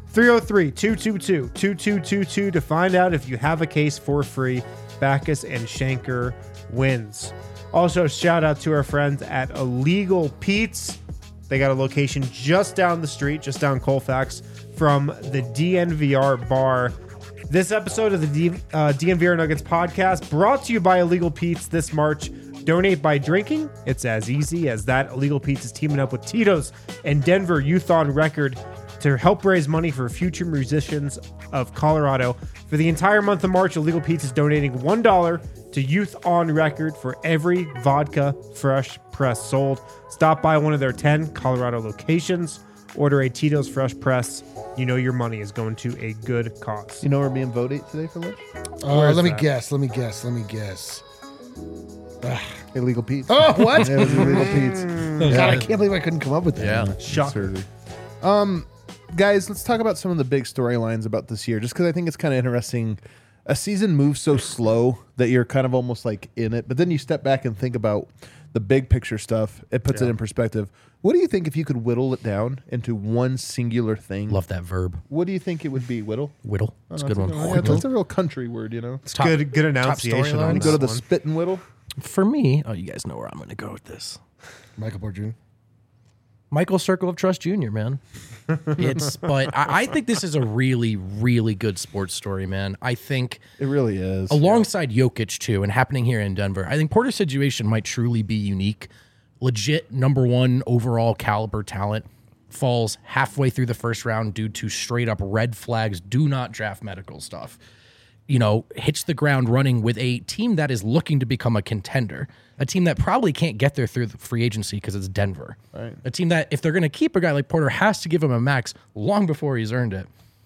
303-222-2222 to find out if you have a case for free. Backus and Shanker wins. Also, shout out to our friends at Illegal Pete's. They got a location just down the street, just down Colfax from the DNVR bar. This episode of the DNVR Nuggets podcast brought to you by Illegal Pete's this March. Donate by drinking. It's as easy as that. Illegal Pete's is teaming up with Tito's and Denver Youth on Record to help raise money for future musicians of Colorado. For the entire month of March, Illegal Pete's is donating $1 to Youth on Record for every vodka fresh press sold. Stop by one of their 10 Colorado locations. Order a Tito's Fresh Press. You know your money is going to a good cause. You know we're being voted today for lunch? Where Let me is that? guess. Illegal Pete. Oh, what? It was Illegal Pete's. God, I can't believe I couldn't come up with that. Yeah. Shocker. Guys, let's talk about some of the big storylines about this year, just because I think it's kind of interesting. A season moves so slow that you're kind of almost like in it, but then you step back and think about the big picture stuff. It puts it in perspective. What do you think if you could whittle it down into one singular thing? Love that verb. What do you think it would be, whittle? Whittle. That's a good one. Yeah, that's a real country word, you know? It's good enunciation storylines. on You go to the this one. spit and whittle. For me, you guys know where I'm going to go with this. Michael Porter Jr. Michael Circle of Trust Jr., man. But I think this is a really, really good sports story, man. I think It really is. alongside Jokic too, and happening here in Denver, I think Porter's situation might truly be unique. Legit number one overall caliber talent falls halfway through the first round due to straight up red flags, do not draft medical stuff. You know, hits the ground running with a team that is looking to become a contender, a team that probably can't get there through the free agency because it's Denver. Right. A team that, if they're going to keep a guy like Porter, has to give him a max long before he's earned it.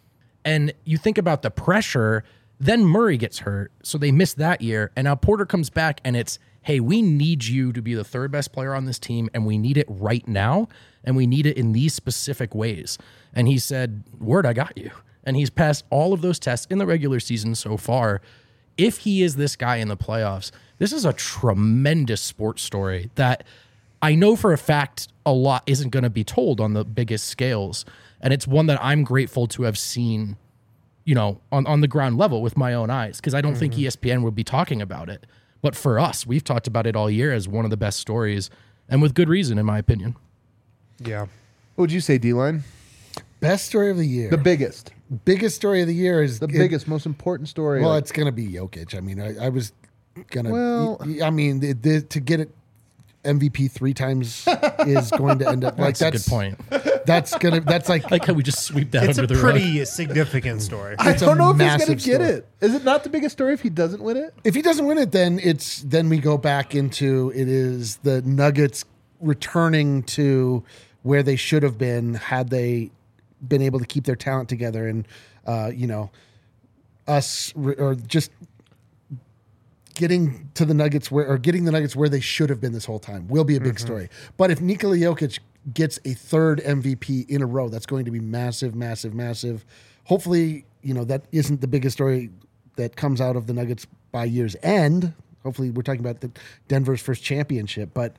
And you think about the pressure, then Murray gets hurt, so they miss that year. And now Porter comes back, and it's, hey, we need you to be the third best player on this team, and we need it right now, and we need it in these specific ways. And he said, word, I got you. And he's passed all of those tests in the regular season so far. If he is this guy in the playoffs, this is a tremendous sports story that I know for a fact a lot isn't going to be told on the biggest scales. And it's one that I'm grateful to have seen, you know, on the ground level with my own eyes, because I don't think ESPN would be talking about it. But for us, we've talked about it all year as one of the best stories, and with good reason, in my opinion. Yeah. What would you say, D-Line? Best story of the year. The biggest. Biggest story of the year is The biggest, most important story. Well, like, it's going to be Jokic. I mean, I was going to. Well- I mean, to get it MVP 3 times is going to end up like That's a good point. That's like Like how we just sweep that It's under a the rug. pretty significant story. I it's a don't know if he's going massive to get story. it. Is it not the biggest story if he doesn't win it? If he doesn't win it, then we go back into it is the Nuggets returning to where they should have been had they been able to keep their talent together, and or just getting to the Nuggets getting the Nuggets where they should have been this whole time will be a big story. But if Nikola Jokic gets a third MVP in a row, that's going to be massive, massive, massive. Hopefully, that isn't the biggest story that comes out of the Nuggets by year's end. Hopefully, we're talking about Denver's first championship. But,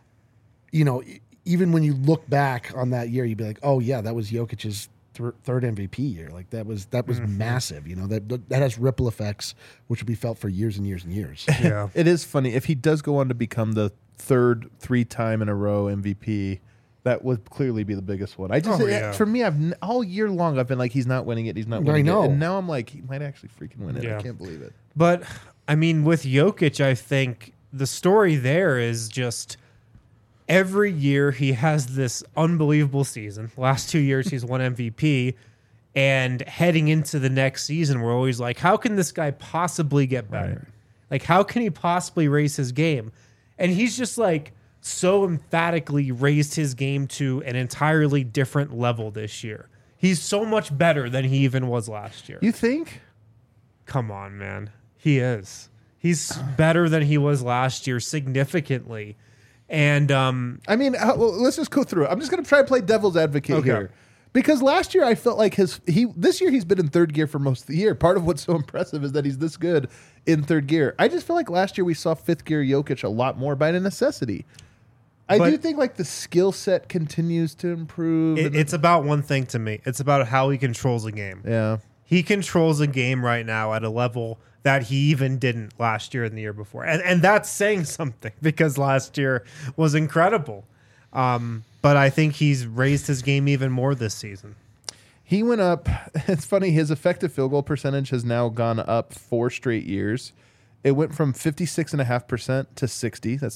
even when you look back on that year, you'd be like, oh, yeah, that was Jokic's third MVP year. Like that was massive. That has ripple effects, which will be felt for years and years and years. Yeah. It is funny. If he does go on to become the third 3-time in a row MVP, that would clearly be the biggest one. For me, all year long, I've been like, he's not winning it. He's not winning know. it. And now I'm like, he might actually freaking win it. Yeah. I can't believe it. But I mean, with Jokic, I think the story there is just every year he has this unbelievable season. Last 2 years, he's won MVP. And heading into the next season, we're always like, how can this guy possibly get better? Right. Like, how can he possibly raise his game? And he's just like so emphatically raised his game to an entirely different level this year. He's so much better than he even was last year. You think? Come on, man. He is. He's better than he was last year significantly. And I mean, let's just go through it. I'm just going to try to play devil's advocate here. Because last year I felt like this year he's been in third gear for most of the year. Part of what's so impressive is that he's this good in third gear. I just feel like last year we saw fifth gear Jokic a lot more by necessity. I do think like the skill set continues to improve. It's about one thing to me. It's about how he controls a game. Yeah. He controls a game right now at a level that he even didn't last year and the year before. And that's saying something because last year was incredible. But I think he's raised his game even more this season. He went up. It's funny. His effective field goal percentage has now gone up 4 straight years. It went from 56.5% to 60. That's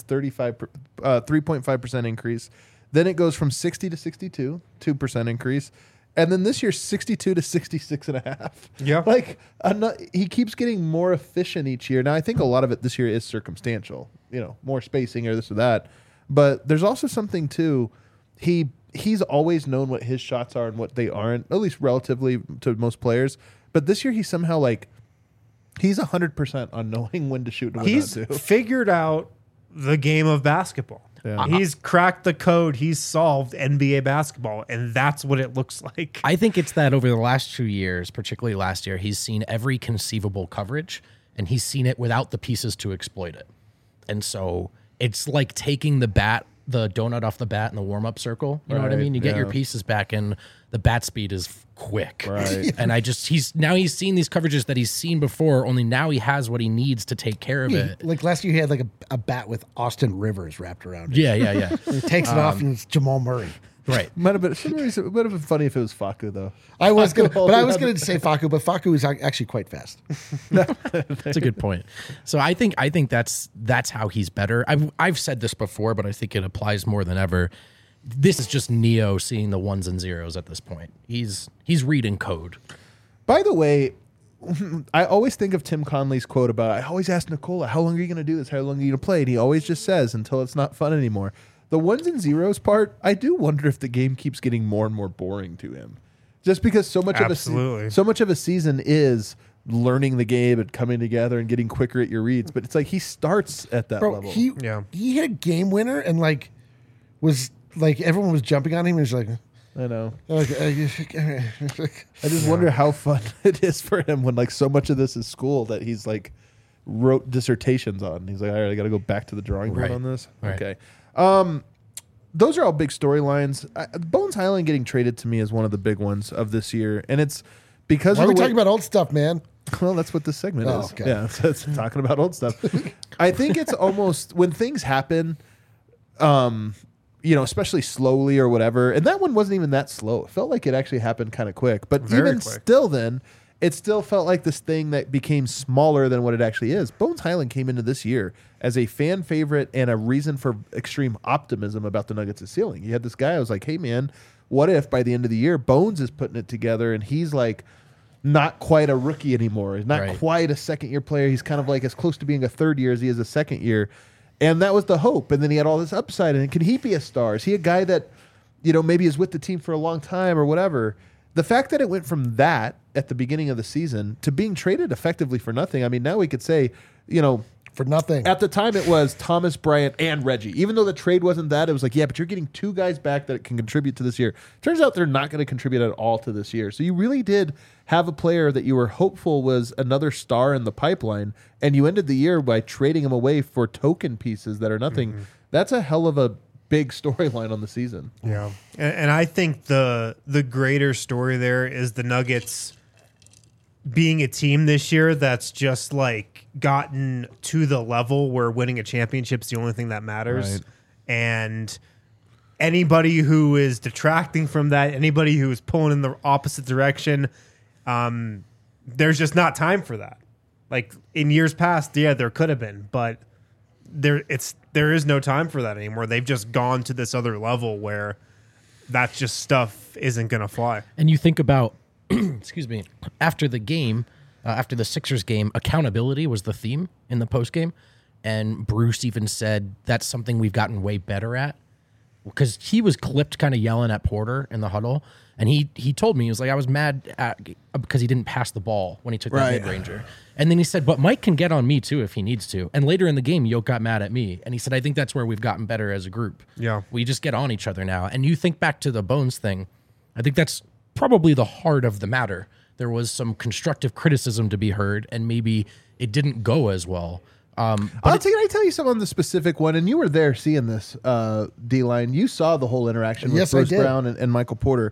3.5% increase. Then it goes from 60 to 62, 2% increase. And then this year, 62 to 66.5. Yeah. Like, he keeps getting more efficient each year. Now, I think a lot of it this year is circumstantial, more spacing or this or that. But there's also something, too. He's always known what his shots are and what they aren't, at least relatively to most players. But this year, he's somehow like, he's 100% on knowing when to shoot and when He's not to. figured out the game of basketball. Yeah. He's cracked the code. He's solved NBA basketball, and that's what it looks like. I think it's that over the last 2 years, particularly last year, he's seen every conceivable coverage, and he's seen it without the pieces to exploit it. And so it's like taking the donut off the bat in the warm-up circle. You know what I Right, mean? You get your yeah. pieces back, and the bat speed is quick. Right. And he's seen these coverages that he's seen before, only now he has what he needs to take care of it. Like last year, he had like a bat with Austin Rivers wrapped around it. Yeah. He takes it off, and it's Jamal Murray. Right. Might have been funny if it was Facu, though. I was going to say Facu, but Facu is actually quite fast. That's a good point. So I think that's how he's better. I've said this before, but I think it applies more than ever. This is just Neo seeing the ones and zeros at this point. He's reading code. By the way, I always think of Tim Conley's quote about, I always ask Nikola, how long are you going to do this? How long are you going to play? And he always just says, until it's not fun anymore. The ones and zeros part, I do wonder if the game keeps getting more and more boring to him. Just because so much Absolutely. so much of a season is learning the game and coming together and getting quicker at your reads, but it's like he starts at that level. He hit a game winner and like was like everyone was jumping on him. He was like, I know. I I just wonder how fun it is for him when like so much of this is school that he's like wrote dissertations on. He's like, all right, I got to go back to the drawing board on this. Right. Okay. Those are all big storylines. Bones Highland getting traded to me is one of the big ones of this year, and it's because Why of are we the way, talking about old stuff, man? well, that's what this segment is. Okay. Yeah, it's talking about old stuff. I think it's almost when things happen, especially slowly or whatever. And that one wasn't even that slow. It felt like it actually happened kind of quick. But Very even quick. still, then it still felt like this thing that became smaller than what it actually is. Bones Highland came into this year as a fan favorite and a reason for extreme optimism about the Nuggets' ceiling. You had this guy who was like, hey man, what if by the end of the year Bones is putting it together and he's like not quite a rookie anymore. He's not quite a second-year player. He's kind of like as close to being a third year as he is a second year. And that was the hope. And then he had all this upside. And can he be a star? Is he a guy that, maybe is with the team for a long time or whatever? The fact that it went from that at the beginning of the season to being traded effectively for nothing. I mean, now we could say, For nothing. at the time it was Thomas Bryant and Reggie. Even though the trade wasn't that, it was like, yeah, but you're getting two guys back that can contribute to this year. Turns out they're not going to contribute at all to this year. So you really did have a player that you were hopeful was another star in the pipeline, and you ended the year by trading him away for token pieces that are nothing. Mm-hmm. That's a hell of a big storyline on the season. Yeah, and I think the greater story there is the Nuggets being a team this year that's just like gotten to the level where winning a championship is the only thing that matters. Right. And anybody who is detracting from that, anybody who is pulling in the opposite direction, there's just not time for that. Like in years past, yeah, there could have been, but there is no time for that anymore. They've just gone to this other level where that just stuff isn't going to fly. And you think about, excuse me, after the game, after the Sixers game, accountability was the theme in the post game. And Bruce even said that's something we've gotten way better at, because he was clipped kind of yelling at Porter in the huddle. And he told me, he was like, I was mad because he didn't pass the ball when he took that mid-ranger. And then he said, but Mike can get on me too if he needs to. And later in the game, Yoke got mad at me. And he said, I think that's where we've gotten better as a group. Yeah. We just get on each other now. And you think back to the Bones thing, I think that's probably the heart of the matter. There was some constructive criticism to be heard, and maybe it didn't go as well. Can I tell you something on the specific one? And you were there seeing this, D-Line. You saw the whole interaction with Bruce Brown and Michael Porter.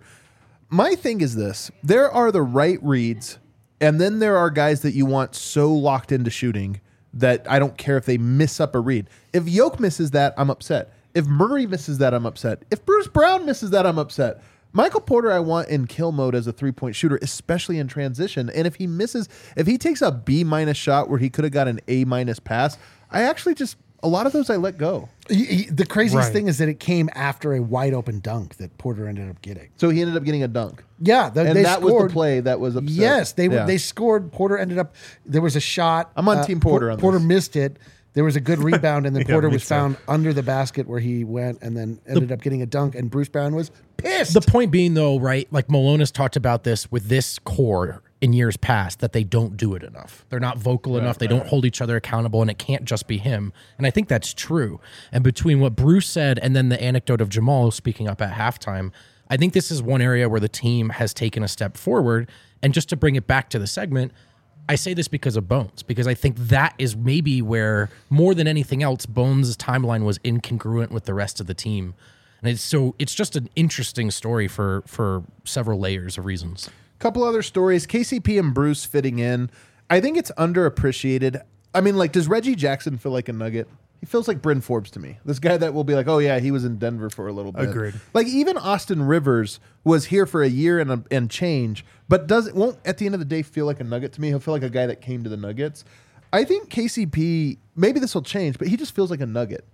My thing is this. There are the right reads, and then there are guys that you want so locked into shooting that I don't care if they miss up a read. If Yoke misses that, I'm upset. If Murray misses that, I'm upset. If Bruce Brown misses that, I'm upset. Michael Porter, I want in kill mode as a three-point shooter, especially in transition. And if he takes a B- shot where he could have got an A- pass, I actually a lot of those I let go. The craziest thing is that it came after a wide open dunk that Porter ended up getting. So he ended up getting a dunk. Yeah, and that was the play that was upset. Yes, they scored. Porter ended up. There was a shot. I'm on Team Porter on Porter this. missed it. There was a good rebound, and then Yeah, Porter me was too. found under the basket where he went, and then ended up getting a dunk. And Bruce Brown was pissed. The point being, though, right, like Malone has talked about this with this core in years past, that they don't do it enough. They're not vocal enough. They don't hold each other accountable, and it can't just be him. And I think that's true. And between what Bruce said and then the anecdote of Jamal speaking up at halftime, I think this is one area where the team has taken a step forward. And just to bring it back to the segment, I say this because of Bones, because I think that is maybe where, more than anything else, Bones' timeline was incongruent with the rest of the team. And it's just an interesting story for several layers of reasons. Couple other stories. KCP and Bruce fitting in. I think it's underappreciated. I mean, like, does Reggie Jackson feel like a Nugget? He feels like Bryn Forbes to me. This guy that will be like, oh yeah, he was in Denver for a little bit. Agreed. Like even Austin Rivers was here for a year and change, but won't at the end of the day feel like a Nugget to me. He'll feel like a guy that came to the Nuggets. I think KCP, maybe this will change, but he just feels like a Nugget.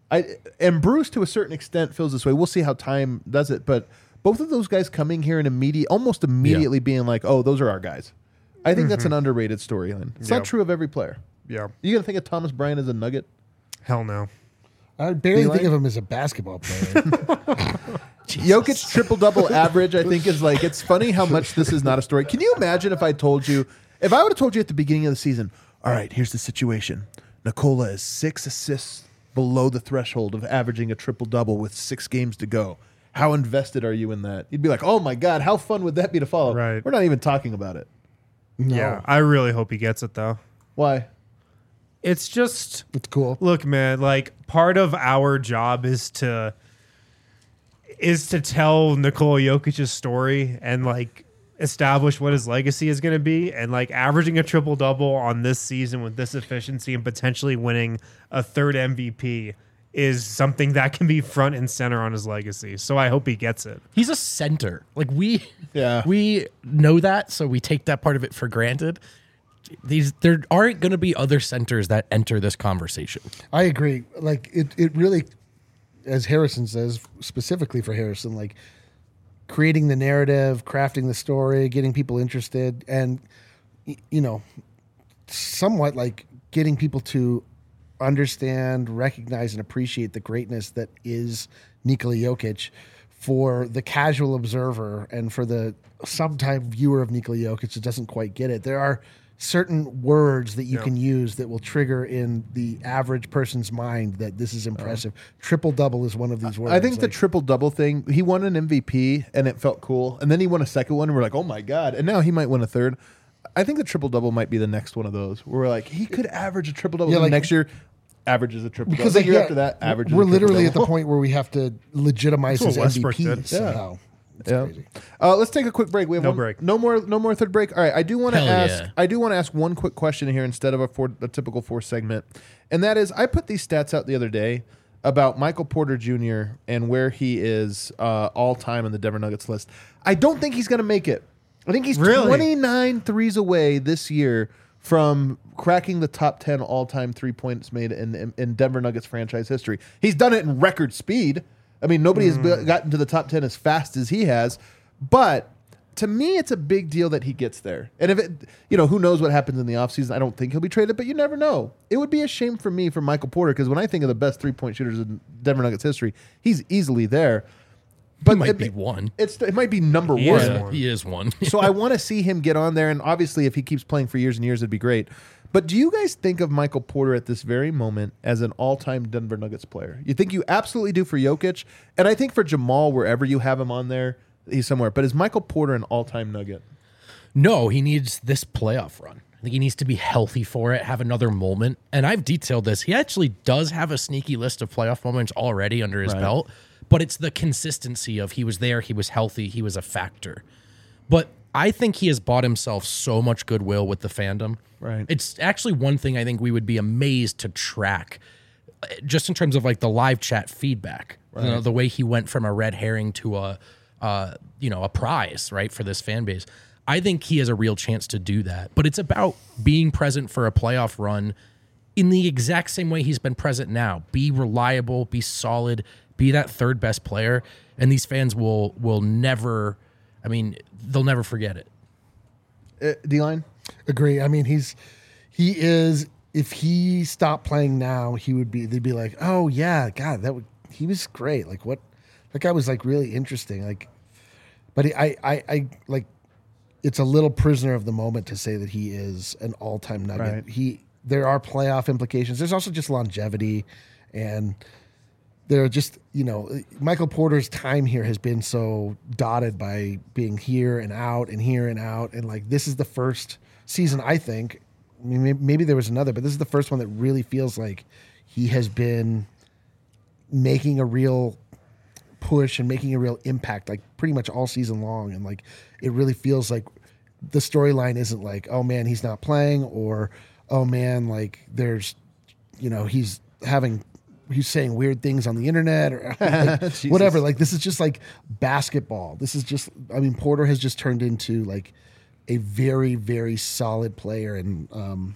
And Bruce to a certain extent feels this way. We'll see how time does it, but both of those guys coming here and almost immediately being like, oh, those are our guys. I think that's an underrated storyline. It's not true of every player. Yeah. You gonna think of Thomas Bryant as a Nugget? Hell no. I barely D-Line? think of him as a basketball player. Jokic triple-double average, I think, is like, it's funny how much this is not a story. Can you imagine if I would have told you at the beginning of the season, all right, here's the situation. Nikola is 6 assists below the threshold of averaging a triple-double with 6 games to go. How invested are you in that? You'd be like, oh my God, how fun would that be to follow? Right. We're not even talking about it. No. Yeah, I really hope he gets it though. Why? It's just It's cool. look, man, like part of our job is to tell Nikola Jokic's story and like establish what his legacy is going to be, and like averaging a triple-double on this season with this efficiency and potentially winning a 3rd MVP is something that can be front and center on his legacy. So I hope he gets it. He's a center. Like we know that, so we take that part of it for granted. There aren't going to be other centers that enter this conversation. I agree. Like it really, as Harrison says, specifically for Harrison, like creating the narrative, crafting the story, getting people interested, and somewhat like getting people to understand, recognize, and appreciate the greatness that is Nikola Jokic for the casual observer and for the sometime viewer of Nikola Jokic that doesn't quite get it. There are certain words that you can use that will trigger in the average person's mind that this is impressive. Triple-double is one of these words. I think the triple-double thing, he won an MVP and it felt cool. And then he won a second one and we're like, oh my God. And now he might win a third. I think the triple-double might be the next one of those where we're like, he could average a triple-double. Yeah, like, next year, averages a triple-double. because The year after that, averages we're a literally at triple-double. the point where we have to legitimize That's his what Westbrook MVP did. somehow. It's Yeah. crazy. Let's take a quick break. We have No one, break. No more third break. All right. I do want to Hell ask. yeah. I do want to ask one quick question here instead of a typical 4 segment, and that is, I put these stats out the other day about Michael Porter Jr. and where he is all time on the Denver Nuggets list. I don't think he's going to make it. I think he's Really? 29 threes away this year from cracking the top 10 all-time 3 points made in Denver Nuggets franchise history. He's done it in record speed. I mean, nobody has gotten to the top 10 as fast as he has. But to me, it's a big deal that he gets there. And if it, who knows what happens in the offseason? I don't think he'll be traded, but you never know. It would be a shame for me, for Michael Porter, because when I think of the best 3-point shooters in Denver Nuggets history, he's easily there. But He might be one. It might be number He one. is Yeah, one. he is one. So I want to see him get on there, and obviously, if he keeps playing for years and years, it'd be great. But do you guys think of Michael Porter at this very moment as an all-time Denver Nuggets player? You think you absolutely do for Jokic, and I think for Jamal, wherever you have him on there, he's somewhere. But is Michael Porter an all-time Nugget? No, he needs this playoff run. I think he needs to be healthy for it, have another moment. And I've detailed this. He actually does have a sneaky list of playoff moments already under his belt, but it's the consistency of he was there, he was healthy, he was a factor. But I think he has bought himself so much goodwill with the fandom. Right. It's actually one thing I think we would be amazed to track, just in terms of like the live chat feedback. Right. The way he went from a red herring to a prize, right, for this fan base. I think he has a real chance to do that. But it's about being present for a playoff run in the exact same way he's been present now. Be reliable, be solid, be that third best player, and these fans will never, they'll never forget it. D-line? Agree. I mean, he is. If he stopped playing now, they'd be like, oh yeah, God, he was great. Like what? That guy was like really interesting. Like, but I like. It's a little prisoner of the moment to say that he is an all-time Nugget. Right. There are playoff implications. There's also just longevity, and there are just Michael Porter's time here has been so dotted by being here and out and here and out, and like this is the first season, I think. I mean, maybe there was another, but this is the first one that really feels like he has been making a real push and making a real impact, like pretty much all season long. And like, it really feels like the storyline isn't like, oh man, he's not playing, or, oh man, like there's, he's saying weird things on the internet or like, whatever. Like, this is just like basketball. This is just, Porter has just turned into like a very, very solid player. And,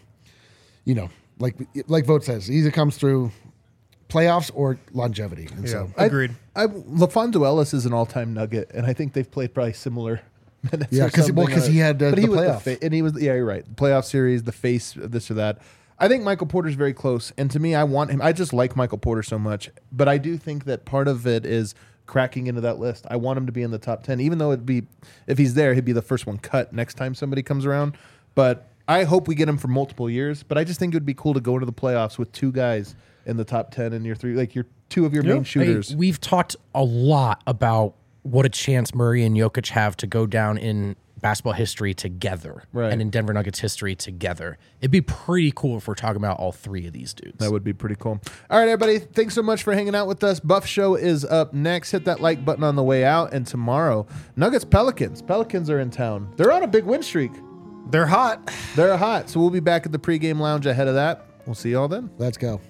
like Vogt says, he either comes through playoffs or longevity. And so Agreed. LaFonso Ellis is an all-time Nugget, and I think they've played probably similar minutes. Yeah, or something. because he had but the he was playoff. and he was, yeah, you're right. The playoff series, the face, this or that. I think Michael Porter's very close, and to me, I want him. I just like Michael Porter so much, but I do think that part of it is cracking into that list. I want him to be in the top 10, even though if he's there, he'd be the first one cut next time somebody comes around. But I hope we get him for multiple years. But I just think it would be cool to go into the playoffs with 2 guys in the top 10 and your 3, like your 2 of your main shooters. Hey, we've talked a lot about what a chance Murray and Jokic have to go down in basketball history together, right, and in Denver Nuggets history together. It'd be pretty cool if we're talking about all 3 of these dudes. That would be pretty cool. All right, everybody. Thanks so much for hanging out with us. Buff Show is up next. Hit that like button on the way out. And tomorrow, Nuggets Pelicans. Pelicans are in town. They're on a big win streak. They're hot. They're hot. So we'll be back at the pregame lounge ahead of that. We'll see y'all then. Let's go.